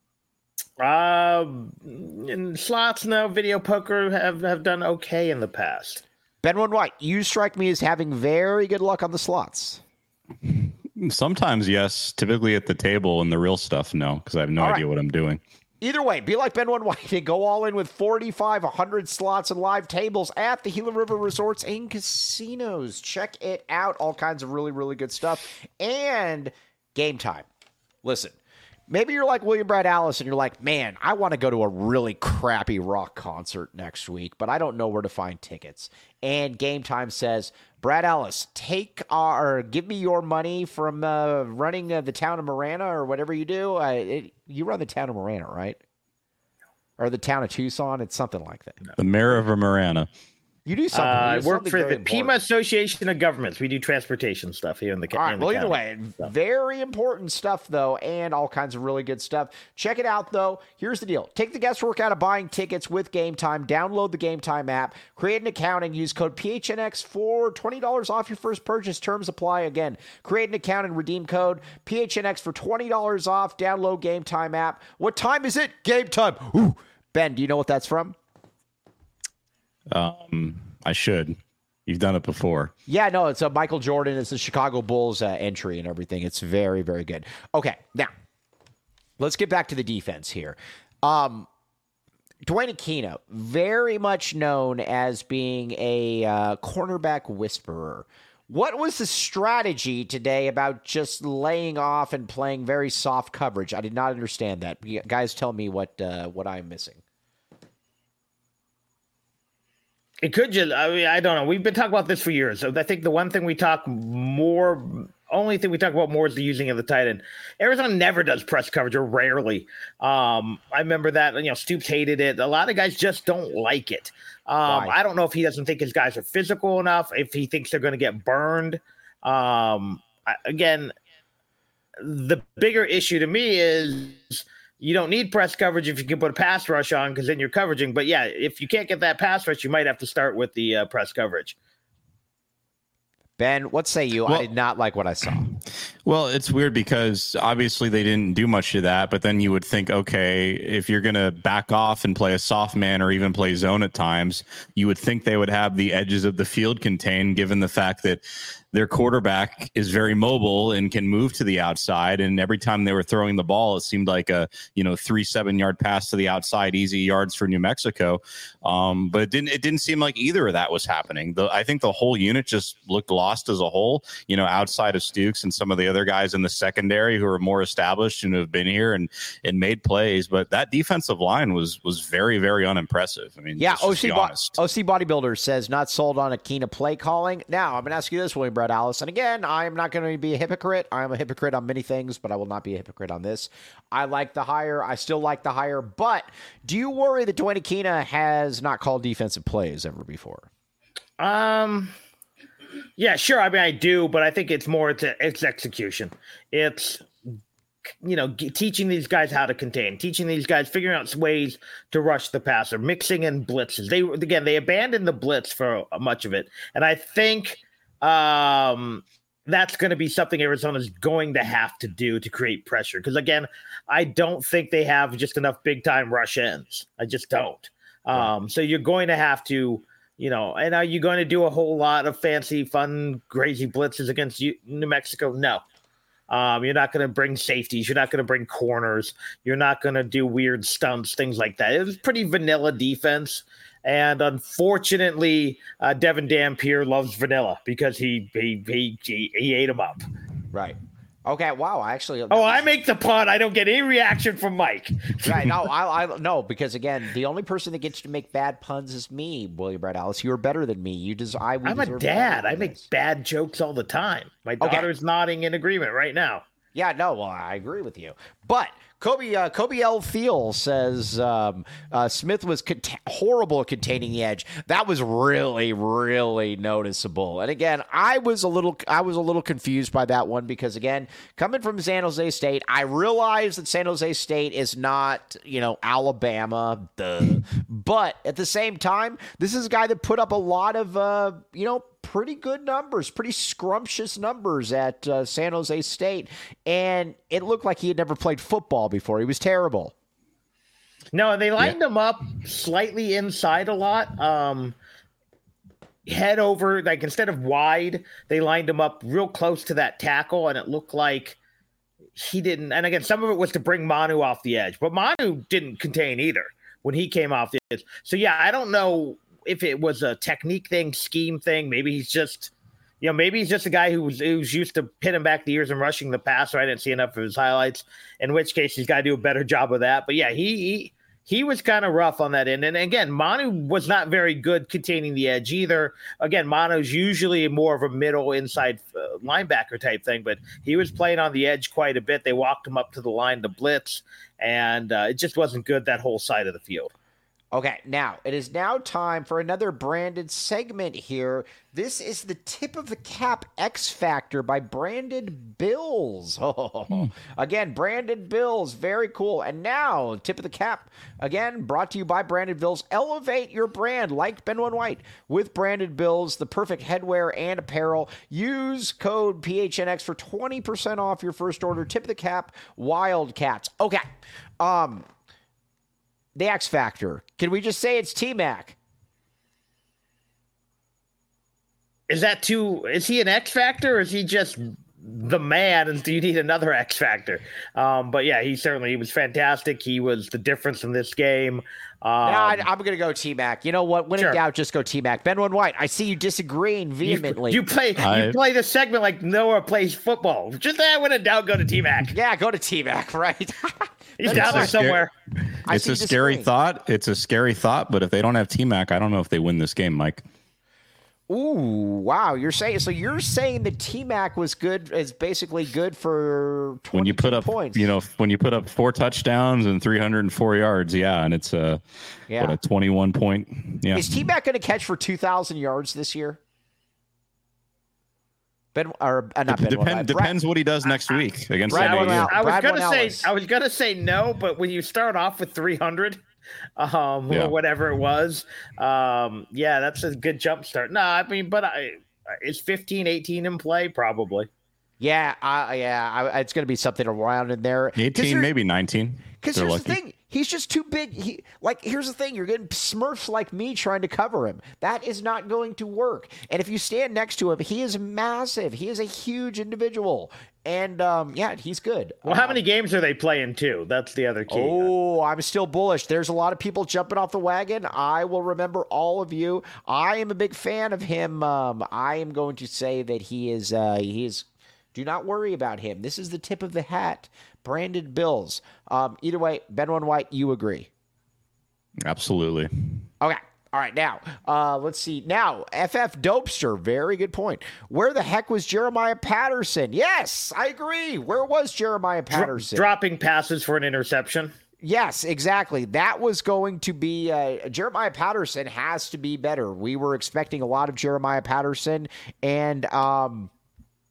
In slots, no. Video poker have done okay in the past. Ben White, you strike me as having very good luck on the slots. Sometimes, yes. Typically at the table, and the real stuff, no, because I have no idea what I'm doing. Either way, be like Ben White and go all in with 4,500 slots and live tables at the Gila River Resorts and Casinos. Check it out. All kinds of really, really good stuff. And Game Time. Listen, maybe you're like William Brad Alice and you're like, man, I want to go to a really crappy rock concert next week, but I don't know where to find tickets. And Game Time says, Brad Alice, give me your money from running the town of Marana or whatever you do. You run the town of Marana, right? Or the town of Tucson? It's something like that. The mayor of Marana. You do something. I work for the Pima Association of Governments. We do transportation stuff here in the county. Well, either way, very important stuff, though, and all kinds of really good stuff. Check it out, though. Here's the deal. Take the guesswork out of buying tickets with Game Time. Download the Game Time app. Create an account and use code PHNX for $20 off your first purchase. Terms apply again. Create an account and redeem code PHNX for $20 off. Download Game Time app. What time is it? Game Time. Ooh. Ben, do you know what that's from? I should. You've done it before. Yeah, no, it's a Michael Jordan. It's the Chicago Bulls entry and everything. It's very, very good. Okay, now, let's get back to the defense here. Dwayne Aquino, very much known as being a cornerback whisperer. What was the strategy today about just laying off and playing very soft coverage? I did not understand that. Guys, tell me what I'm missing. It could just, I don't know. We've been talking about this for years. So I think the only thing we talk about more is the using of the tight end. Arizona never does press coverage, or rarely. I remember that, Stoops hated it. A lot of guys just don't like it. I don't know if he doesn't think his guys are physical enough, if he thinks they're going to get burned. Again, the bigger issue to me is you don't need press coverage if you can put a pass rush on, because then you're coveraging. But yeah, if you can't get that pass rush, you might have to start with the press coverage. Ben, what say you? Well, I did not like what I saw. Well, it's weird because obviously they didn't do much of that, but then you would think, okay, if you're going to back off and play a soft man or even play zone at times, you would think they would have the edges of the field contained, given the fact that their quarterback is very mobile and can move to the outside. And every time they were throwing the ball, it seemed like a 3-7 yard pass to the outside, easy yards for New Mexico. But it didn't seem like either of that was happening. I think the whole unit just looked lost as a whole, outside of Stukes and some of the other guys in the secondary who are more established and who have been here and made plays. But that defensive line was very, very unimpressive. I mean, yeah, OC Bodybuilder says not sold on Aquino play calling. Now, I'm going to ask you this, William Brad Alice. And again, I am not going to be a hypocrite. I am a hypocrite on many things, but I will not be a hypocrite on this. I like the hire. I still like the hire. But do you worry that Dwayne Aquino has not called defensive plays ever before? Yeah, sure. I mean, I do, but I think it's more it's execution. It's teaching these guys how to contain, teaching these guys, figuring out ways to rush the passer, mixing in blitzes. They abandoned the blitz for much of it. And I think that's going to be something Arizona's going to have to do to create pressure. Because, again, I don't think they have just enough big-time rush ends. I just don't. So you're going to have to, and are you going to do a whole lot of fancy, fun, crazy blitzes against New Mexico? No. You're not going to bring safeties. You're not going to bring corners. You're not going to do weird stunts, things like that. It was pretty vanilla defense. And unfortunately, Devin Dampier loves vanilla because he ate him up. Right. Okay. Wow. I make the pun. I don't get any reaction from Mike. Right. No, no, because again, the only person that gets to make bad puns is me, William Brad Alice. You are better than me. I'm a dad. I make bad jokes all the time. My daughter's nodding in agreement right now. Yeah. No. Well, I agree with you, but. Kobe L. Thiel says Smith was horrible at containing the edge. That was really, really noticeable. And again, I was a little confused by that one because again, coming from San Jose State, I realize that San Jose State is not Alabama, but at the same time, this is a guy that put up a lot of pretty good numbers, pretty scrumptious numbers at San Jose State. And it looked like he had never played football before. He was terrible. No, they lined him up slightly inside a lot. Head over, like instead of wide, they lined him up real close to that tackle. And it looked like he didn't. And again, some of it was to bring Manu off the edge. But Manu didn't contain either when he came off the edge. So, yeah, I don't know if it was a technique thing, scheme thing. Maybe he's just, a guy who's used to pinning back the ears and rushing the passer. I didn't see enough of his highlights, in which case he's got to do a better job of that. But yeah, he was kind of rough on that end. And again, Manu was not very good containing the edge either. Again, Manu's usually more of a middle inside linebacker type thing, but he was playing on the edge quite a bit. They walked him up to the line to blitz, and it just wasn't good that whole side of the field. Okay, now it is now time for another branded segment here. This is the Tip of the Cap X Factor by Branded Bills. Again, Branded Bills, very cool. And now, Tip of the Cap, again, brought to you by Branded Bills. Elevate your brand like Ben One White with Branded Bills, the perfect headwear and apparel. Use code PHNX for 20% off your first order. Tip of the Cap, Wildcats. Okay, the X Factor. Can we just say it's T-Mac? Is he an X Factor or is he just the man and do you need another X Factor? But yeah, he was fantastic. He was the difference in this game. I'm going to go T-Mac. You know what? When in doubt, just go T-Mac. Ben One White, I see you disagreeing vehemently. You play the segment like Noah plays football. Just when in doubt, go to T-Mac. Yeah, go to T-Mac, right? He's down there somewhere. It's a scary thought. It's a scary thought, but if they don't have T-Mac, I don't know if they win this game, Mike. Ooh, wow. You're saying that T-Mac was good, is basically good for 22 when you put up points. When you put up 4 touchdowns and 304 yards, and it's a 21 point. Yeah. Is T-Mac going to catch for 2,000 yards this year? Depends what he does next week against San Diego. I was gonna say no, but when you start off with 300, or whatever it was, that's a good jump start. No, I mean, but is 15, 18 in play? Probably. Yeah, it's going to be something around in there. 18, maybe 19. Because here's the thing. He's just too big. Here's the thing. You're getting Smurfs like me trying to cover him. That is not going to work. And if you stand next to him, he is massive. He is a huge individual. And, he's good. Well, how many games are they playing, too? That's the other key. Oh, I'm still bullish. There's a lot of people jumping off the wagon. I will remember all of you. I am a big fan of him. I am going to say that he is do not worry about him. This is the tip of the hat. Branded Bills. Either way, Ben One White, you agree? Absolutely. Okay. All right. Now, let's see. Now, FF Dopester. Very good point. Where the heck was Jeremiah Patterson? Yes, I agree. Where was Jeremiah Patterson? Dropping passes for an interception. Yes, exactly. That was going to be Jeremiah Patterson has to be better. We were expecting a lot of Jeremiah Patterson, and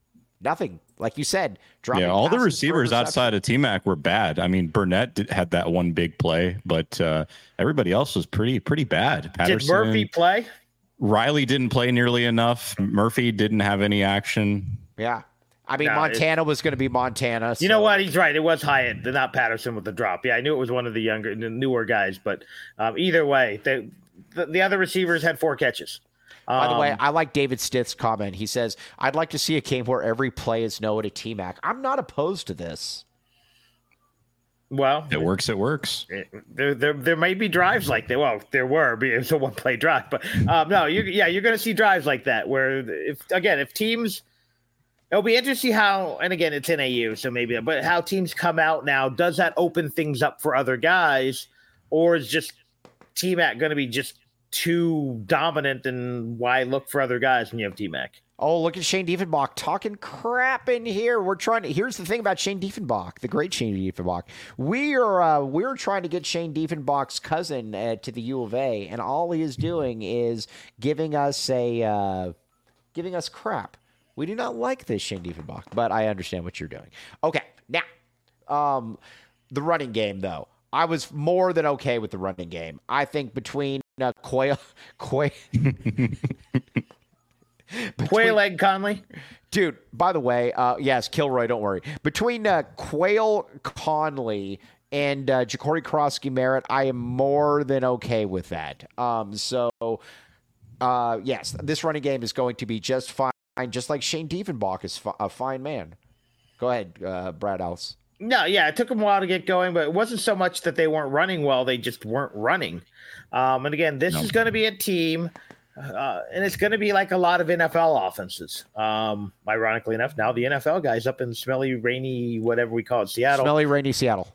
Nothing. Like you said, dropping. Yeah, all the receivers outside of T-Mac were bad. I mean, Burnett had that one big play, but everybody else was pretty bad. Patterson, did Murphy play? Riley didn't play nearly enough. Murphy didn't have any action. Yeah. I mean, Montana was going to be Montana. You know what? He's right. It was Hyatt, not Patterson with the drop. Yeah, I knew it was one of the newer guys. But either way, the other receivers had 4 catches. By the way, I like David Stith's comment. He says, I'd like to see a game where every play is Noah to T-Mac. I'm not opposed to this. Well, it works. It works. There may be drives like that. Well, there were. It's a one-play drive. But no, you're going to see drives like that where, if teams – it'll be interesting how, and again, it's NAU, so maybe, but how teams come out now, does that open things up for other guys, or is just T-Mac going to be just too dominant, and why look for other guys when you have T-Mac? Oh, look at Shane Diefenbach talking crap in here. Here's the thing about Shane Diefenbach, the great Shane Diefenbach. We're trying to get Shane Diefenbach's cousin to the U of A, and all he is doing is giving us crap. We do not like this, Shane Diefenbach, but I understand what you're doing. Okay, now, the running game, though. I was more than okay with the running game. I think between Quayle Egg Conley. Dude, by the way, yes, Kilroy, don't worry. Between Quayle Conley and Ja'Cory Krosky-Merritt, I am more than okay with that. Yes, this running game is going to be just fine. Just like Shane Diefenbach is a fine man. Go ahead, Brad Ellis. No, yeah, it took them a while to get going, but it wasn't so much that they weren't running well. They just weren't running. And again, this is going to be a team, and it's going to be like a lot of NFL offenses. Ironically enough, now the NFL guys up in smelly, rainy, whatever we call it, Seattle. Smelly, rainy Seattle.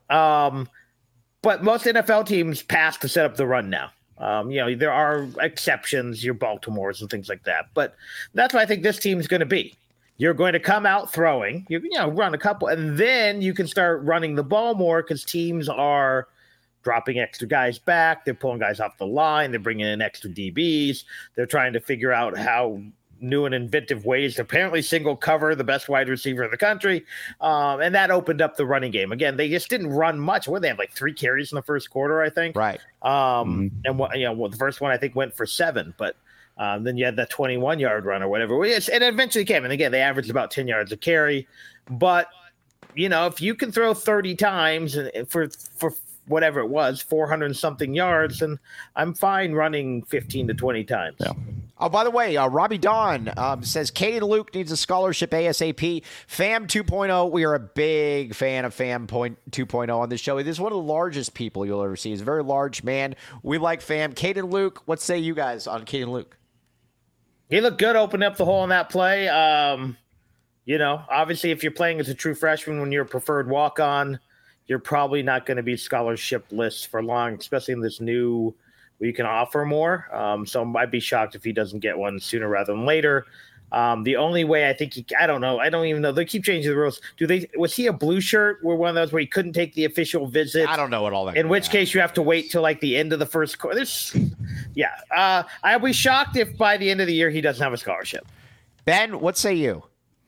But most NFL teams pass to set up the run now. There are exceptions, your Baltimores and things like that. But that's what I think this team is going to be. You're going to come out throwing, run a couple, and then you can start running the ball more because teams are dropping extra guys back. They're pulling guys off the line. They're bringing in extra DBs. They're trying to figure out how new and inventive ways to apparently single cover the best wide receiver in the country. And that opened up the running game. Again, they just didn't run much. What, they had like 3 carries in the first quarter, I think. Right. And the first one I think went for 7, but then you had that 21-yard run or whatever. And it eventually came. And again, they averaged about 10 yards a carry. But, if you can throw 30 times for whatever it was, 400 something yards, and I'm fine running 15 to 20 times. Yeah. Oh, by the way, Robbie Don says Caden Luke needs a scholarship ASAP. FAM 2.0. We are a big fan of FAM 2.0 on this show. It is one of the largest people you'll ever see. He's a very large man. We like FAM. Caden Luke, what say you guys on Caden Luke? He looked good opening up the hole in that play. Obviously, if you're playing as a true freshman when you're a preferred walk-on, you're probably not going to be scholarship lists for long, especially in this new where you can offer more. So I'd be shocked if he doesn't get one sooner rather than later. The only way I think I don't know. I don't even know. They keep changing the rules. Was he a blue shirt? Were one of those where he couldn't take the official visit? I don't know what all that. In which case you have to wait till like the end of the first quarter. I'll be shocked if by the end of the year he doesn't have a scholarship. Ben, what say you?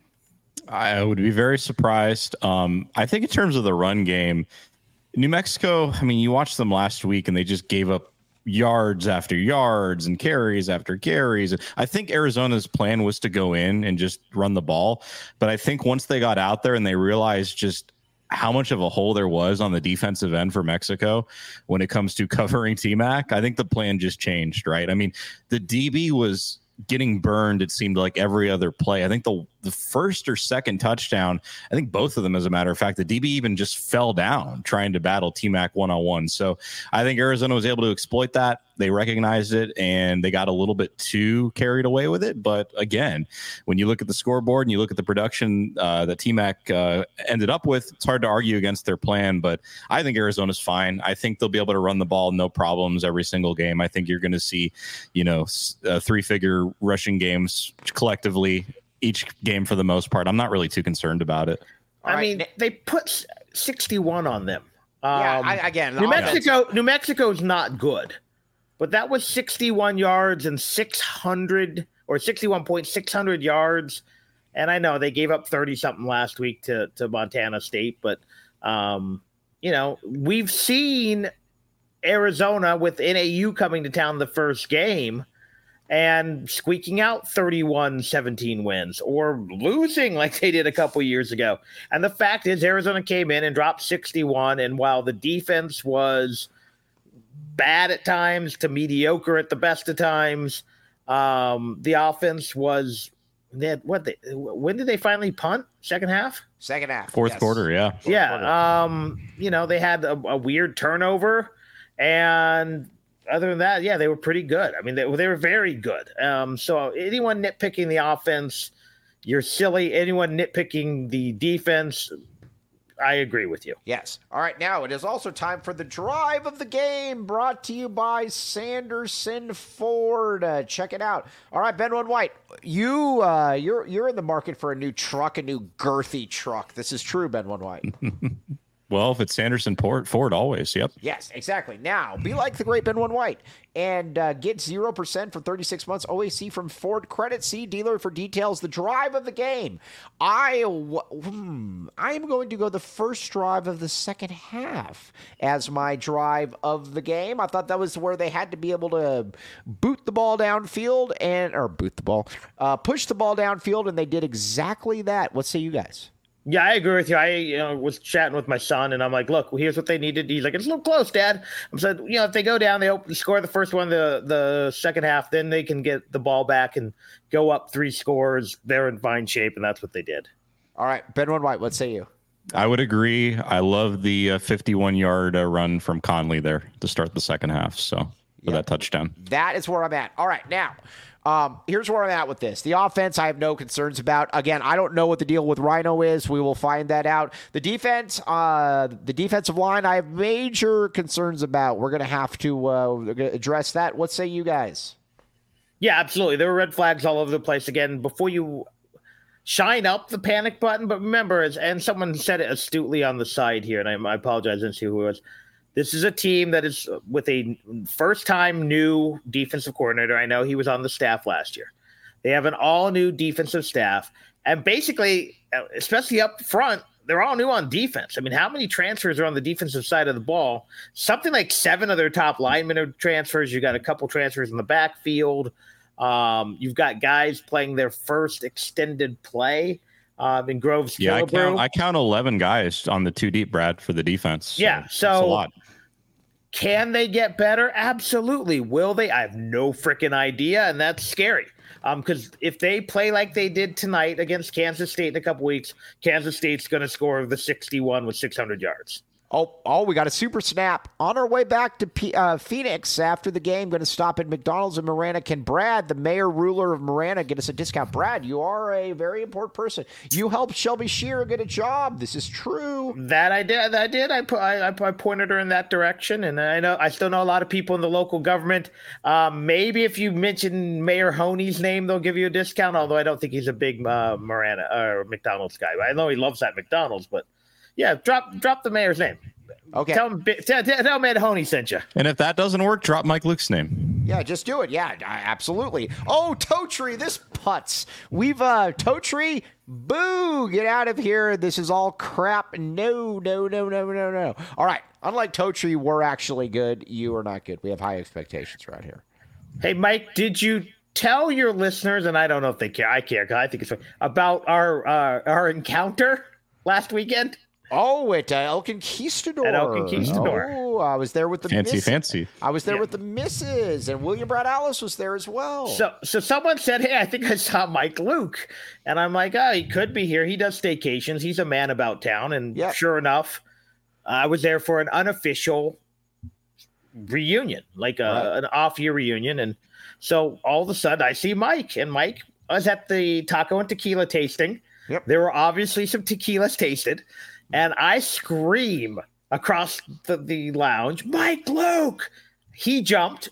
I would be very surprised. I think in terms of the run game, New Mexico, I mean, you watched them last week and they just gave up yards after yards and carries after carries. I think Arizona's plan was to go in and just run the ball. But I think once they got out there and they realized just how much of a hole there was on the defensive end for Mexico when it comes to covering T-Mac, I think the plan just changed, right? I mean, the DB was getting burned, it seemed like, every other play. I think the first or second touchdown, I think both of them, as a matter of fact, the DB even just fell down trying to battle T-Mac one-on-one. So I think Arizona was able to exploit that. They recognized it, and they got a little bit too carried away with it. But again, when you look at the scoreboard and you look at the production that T-Mac ended up with, it's hard to argue against their plan. But I think Arizona's fine. I think they'll be able to run the ball, no problems, every single game. I think you're going to see, 3-figure rushing games collectively each game for the most part. I'm not really too concerned about it. I mean, they put 61 on them. New Mexico's not good. But that was 61 yards and 600 yards And I know they gave up 30-something last week to Montana State, but, we've seen Arizona with NAU coming to town the first game and squeaking out 31-17 wins or losing like they did a couple years ago. And the fact is Arizona came in and dropped 61, and while the defense was bad at times to mediocre at the best of times, the offense was – when did they finally punt? Second half? Second half. Fourth quarter, yeah. Yeah. They had a weird turnover, and other than that, yeah, they were pretty good. I mean, they were very good. So anyone nitpicking the offense, you're silly. Anyone nitpicking the defense, I agree with you. Yes. All right. Now it is also time for the drive of the game, brought to you by Sanderson Ford. Check it out. All right, Ben White, you're in the market for a new truck, a new girthy truck. This is true, Ben White. Well, if it's Sanderson Ford, always. Yep. Yes, exactly. Now, be like the great Ben White and get 0% for 36 months OAC from Ford Credit. See dealer for details. The drive of the game. I am going to go the first drive of the second half as my drive of the game. I thought that was where they had to be able to push the ball downfield, and they did exactly that. What say you guys? Yeah, I agree with you. I was chatting with my son, and I'm like, look, here's what they needed. He's like, it's a little close, Dad. I said, if they go down, they score the first one, the second half, then they can get the ball back and go up 3 scores. They're in fine shape, and that's what they did. All right, Ben White, what say you? I would agree. I love the 51-yard run from Conley there to start the second half. So for that touchdown. That is where I'm at. All right, now. Here's where I'm at with this. The offense, I have no concerns about. Again, I don't know what the deal with Rhino is. We will find that out. The defense, the defensive line, I have major concerns about. We're going to have to address that. What say you guys? Yeah, absolutely. There were red flags all over the place. Again, before you shine up the panic button, but remember, and someone said it astutely on the side here, and I apologize, I didn't see who it was. This is a team that is with a first-time new defensive coordinator. I know he was on the staff last year. They have an all-new defensive staff. And basically, especially up front, they're all new on defense. I mean, how many transfers are on the defensive side of the ball? Something like 7 of their top linemen are transfers. You got a couple transfers in the backfield. You've got guys playing their first extended play. In Groves. Yeah, I count 11 guys on the 2 deep, Brad, for the defense. Yeah, so that's a lot. Can they get better? Absolutely. Will they? I have no freaking idea, and that's scary. Because if they play like they did tonight against Kansas State in a couple weeks, Kansas State's going to score the 61 with 600 yards. Oh, we got a super snap. On our way back to Phoenix after the game, going to stop at McDonald's in Marana. Can Brad, the mayor ruler of Marana, get us a discount? Brad, you are a very important person. You helped Shelby Shearer get a job. This is true. That I did. I pointed her in that direction, and I still know a lot of people in the local government. Maybe if you mention Mayor Honey's name, they'll give you a discount, although I don't think he's a big Marana or McDonald's guy. I know he loves that McDonald's, but yeah, drop the mayor's name. Okay. Tell Mayor Honey sent you. And if that doesn't work, drop Mike Luke's name. Yeah, just do it. Yeah, absolutely. Oh, Totri, this putz. We've Totri, boo, get out of here. This is all crap. No. All right. Unlike Totri, we're actually good. You are not good. We have high expectations right here. Hey, Mike, did you tell your listeners, and I don't know if they care. I care because I think it's funny, about our encounter last weekend? Oh, at El Conquistador. At El Conquistador. Oh, I was there with the fancy. I was there with the missus, and William Brad Alice was there as well. So someone said, hey, I think I saw Mike Luke. And I'm like, oh, he could be here. He does staycations. He's a man about town. And sure enough, I was there for an unofficial reunion, like an off-year reunion. And so all of a sudden, I see Mike. And Mike was at the taco and tequila tasting. Yep. There were obviously some tequilas tasted. And I scream across the lounge, Mike Luke! He jumped.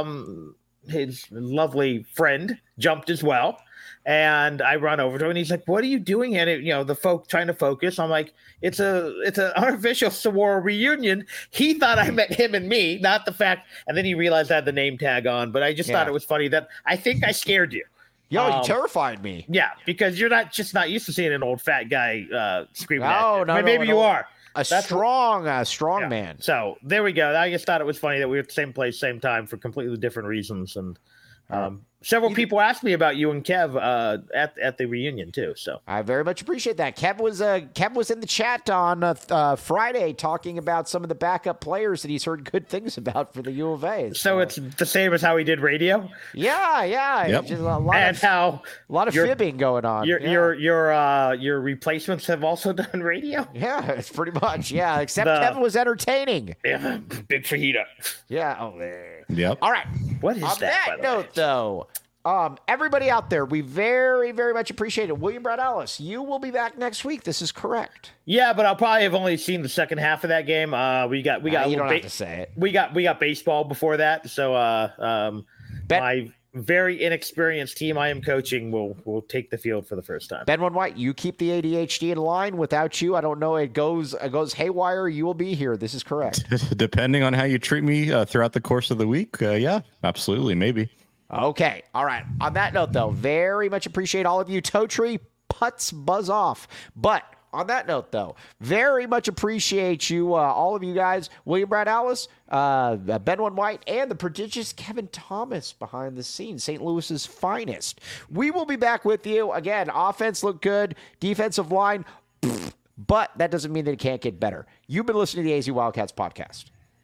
His lovely friend jumped as well. And I run over to him, and he's like, what are you doing? And the folk trying to focus. I'm like, it's an unofficial Saguaro reunion. He thought I meant him and me, not the fact. And then he realized I had the name tag on. But I just thought it was funny that I think I scared you. Yo, you terrified me. Yeah, because you're not used to seeing an old fat guy screaming at you. No, maybe you are. That's strong man. So there we go. I just thought it was funny that we were at the same place, same time for completely different reasons. And several people asked me about you and Kev at the reunion too. So I very much appreciate that. Kev was in the chat on Friday talking about some of the backup players that he's heard good things about for the U of A. So it's the same as how he did radio. Yeah. Yep. Just a lot of fibbing going on. Your replacements have also done radio. Yeah, it's pretty much except Kevin was entertaining. Yeah, big fajita. Yeah. Oh, there. Yep. All right. What is on that? On that note, though, everybody out there, we very, very much appreciate it. William Brad Ellis, you will be back next week. This is correct. Yeah, but I'll probably have only seen the second half of that game. We got. You don't have to say it. We got baseball before that, so my very inexperienced team I am coaching will take the field for the first time. Ben One White, you keep the ADHD in line. Without you, I don't know. It goes haywire. You will be here. This is correct. Depending on how you treat me throughout the course of the week, yeah, absolutely, maybe. Okay. All right. On that note, though, very much appreciate all of you. Toe Tree, putts buzz off. But on that note, though, very much appreciate you, all of you guys, William Brad Ellis, Ben One White, and the prodigious Kevin Thomas behind the scenes, St. Louis's finest. We will be back with you. Again, offense looked good, defensive line, but that doesn't mean that it can't get better. You've been listening to the AZ Wildcats podcast.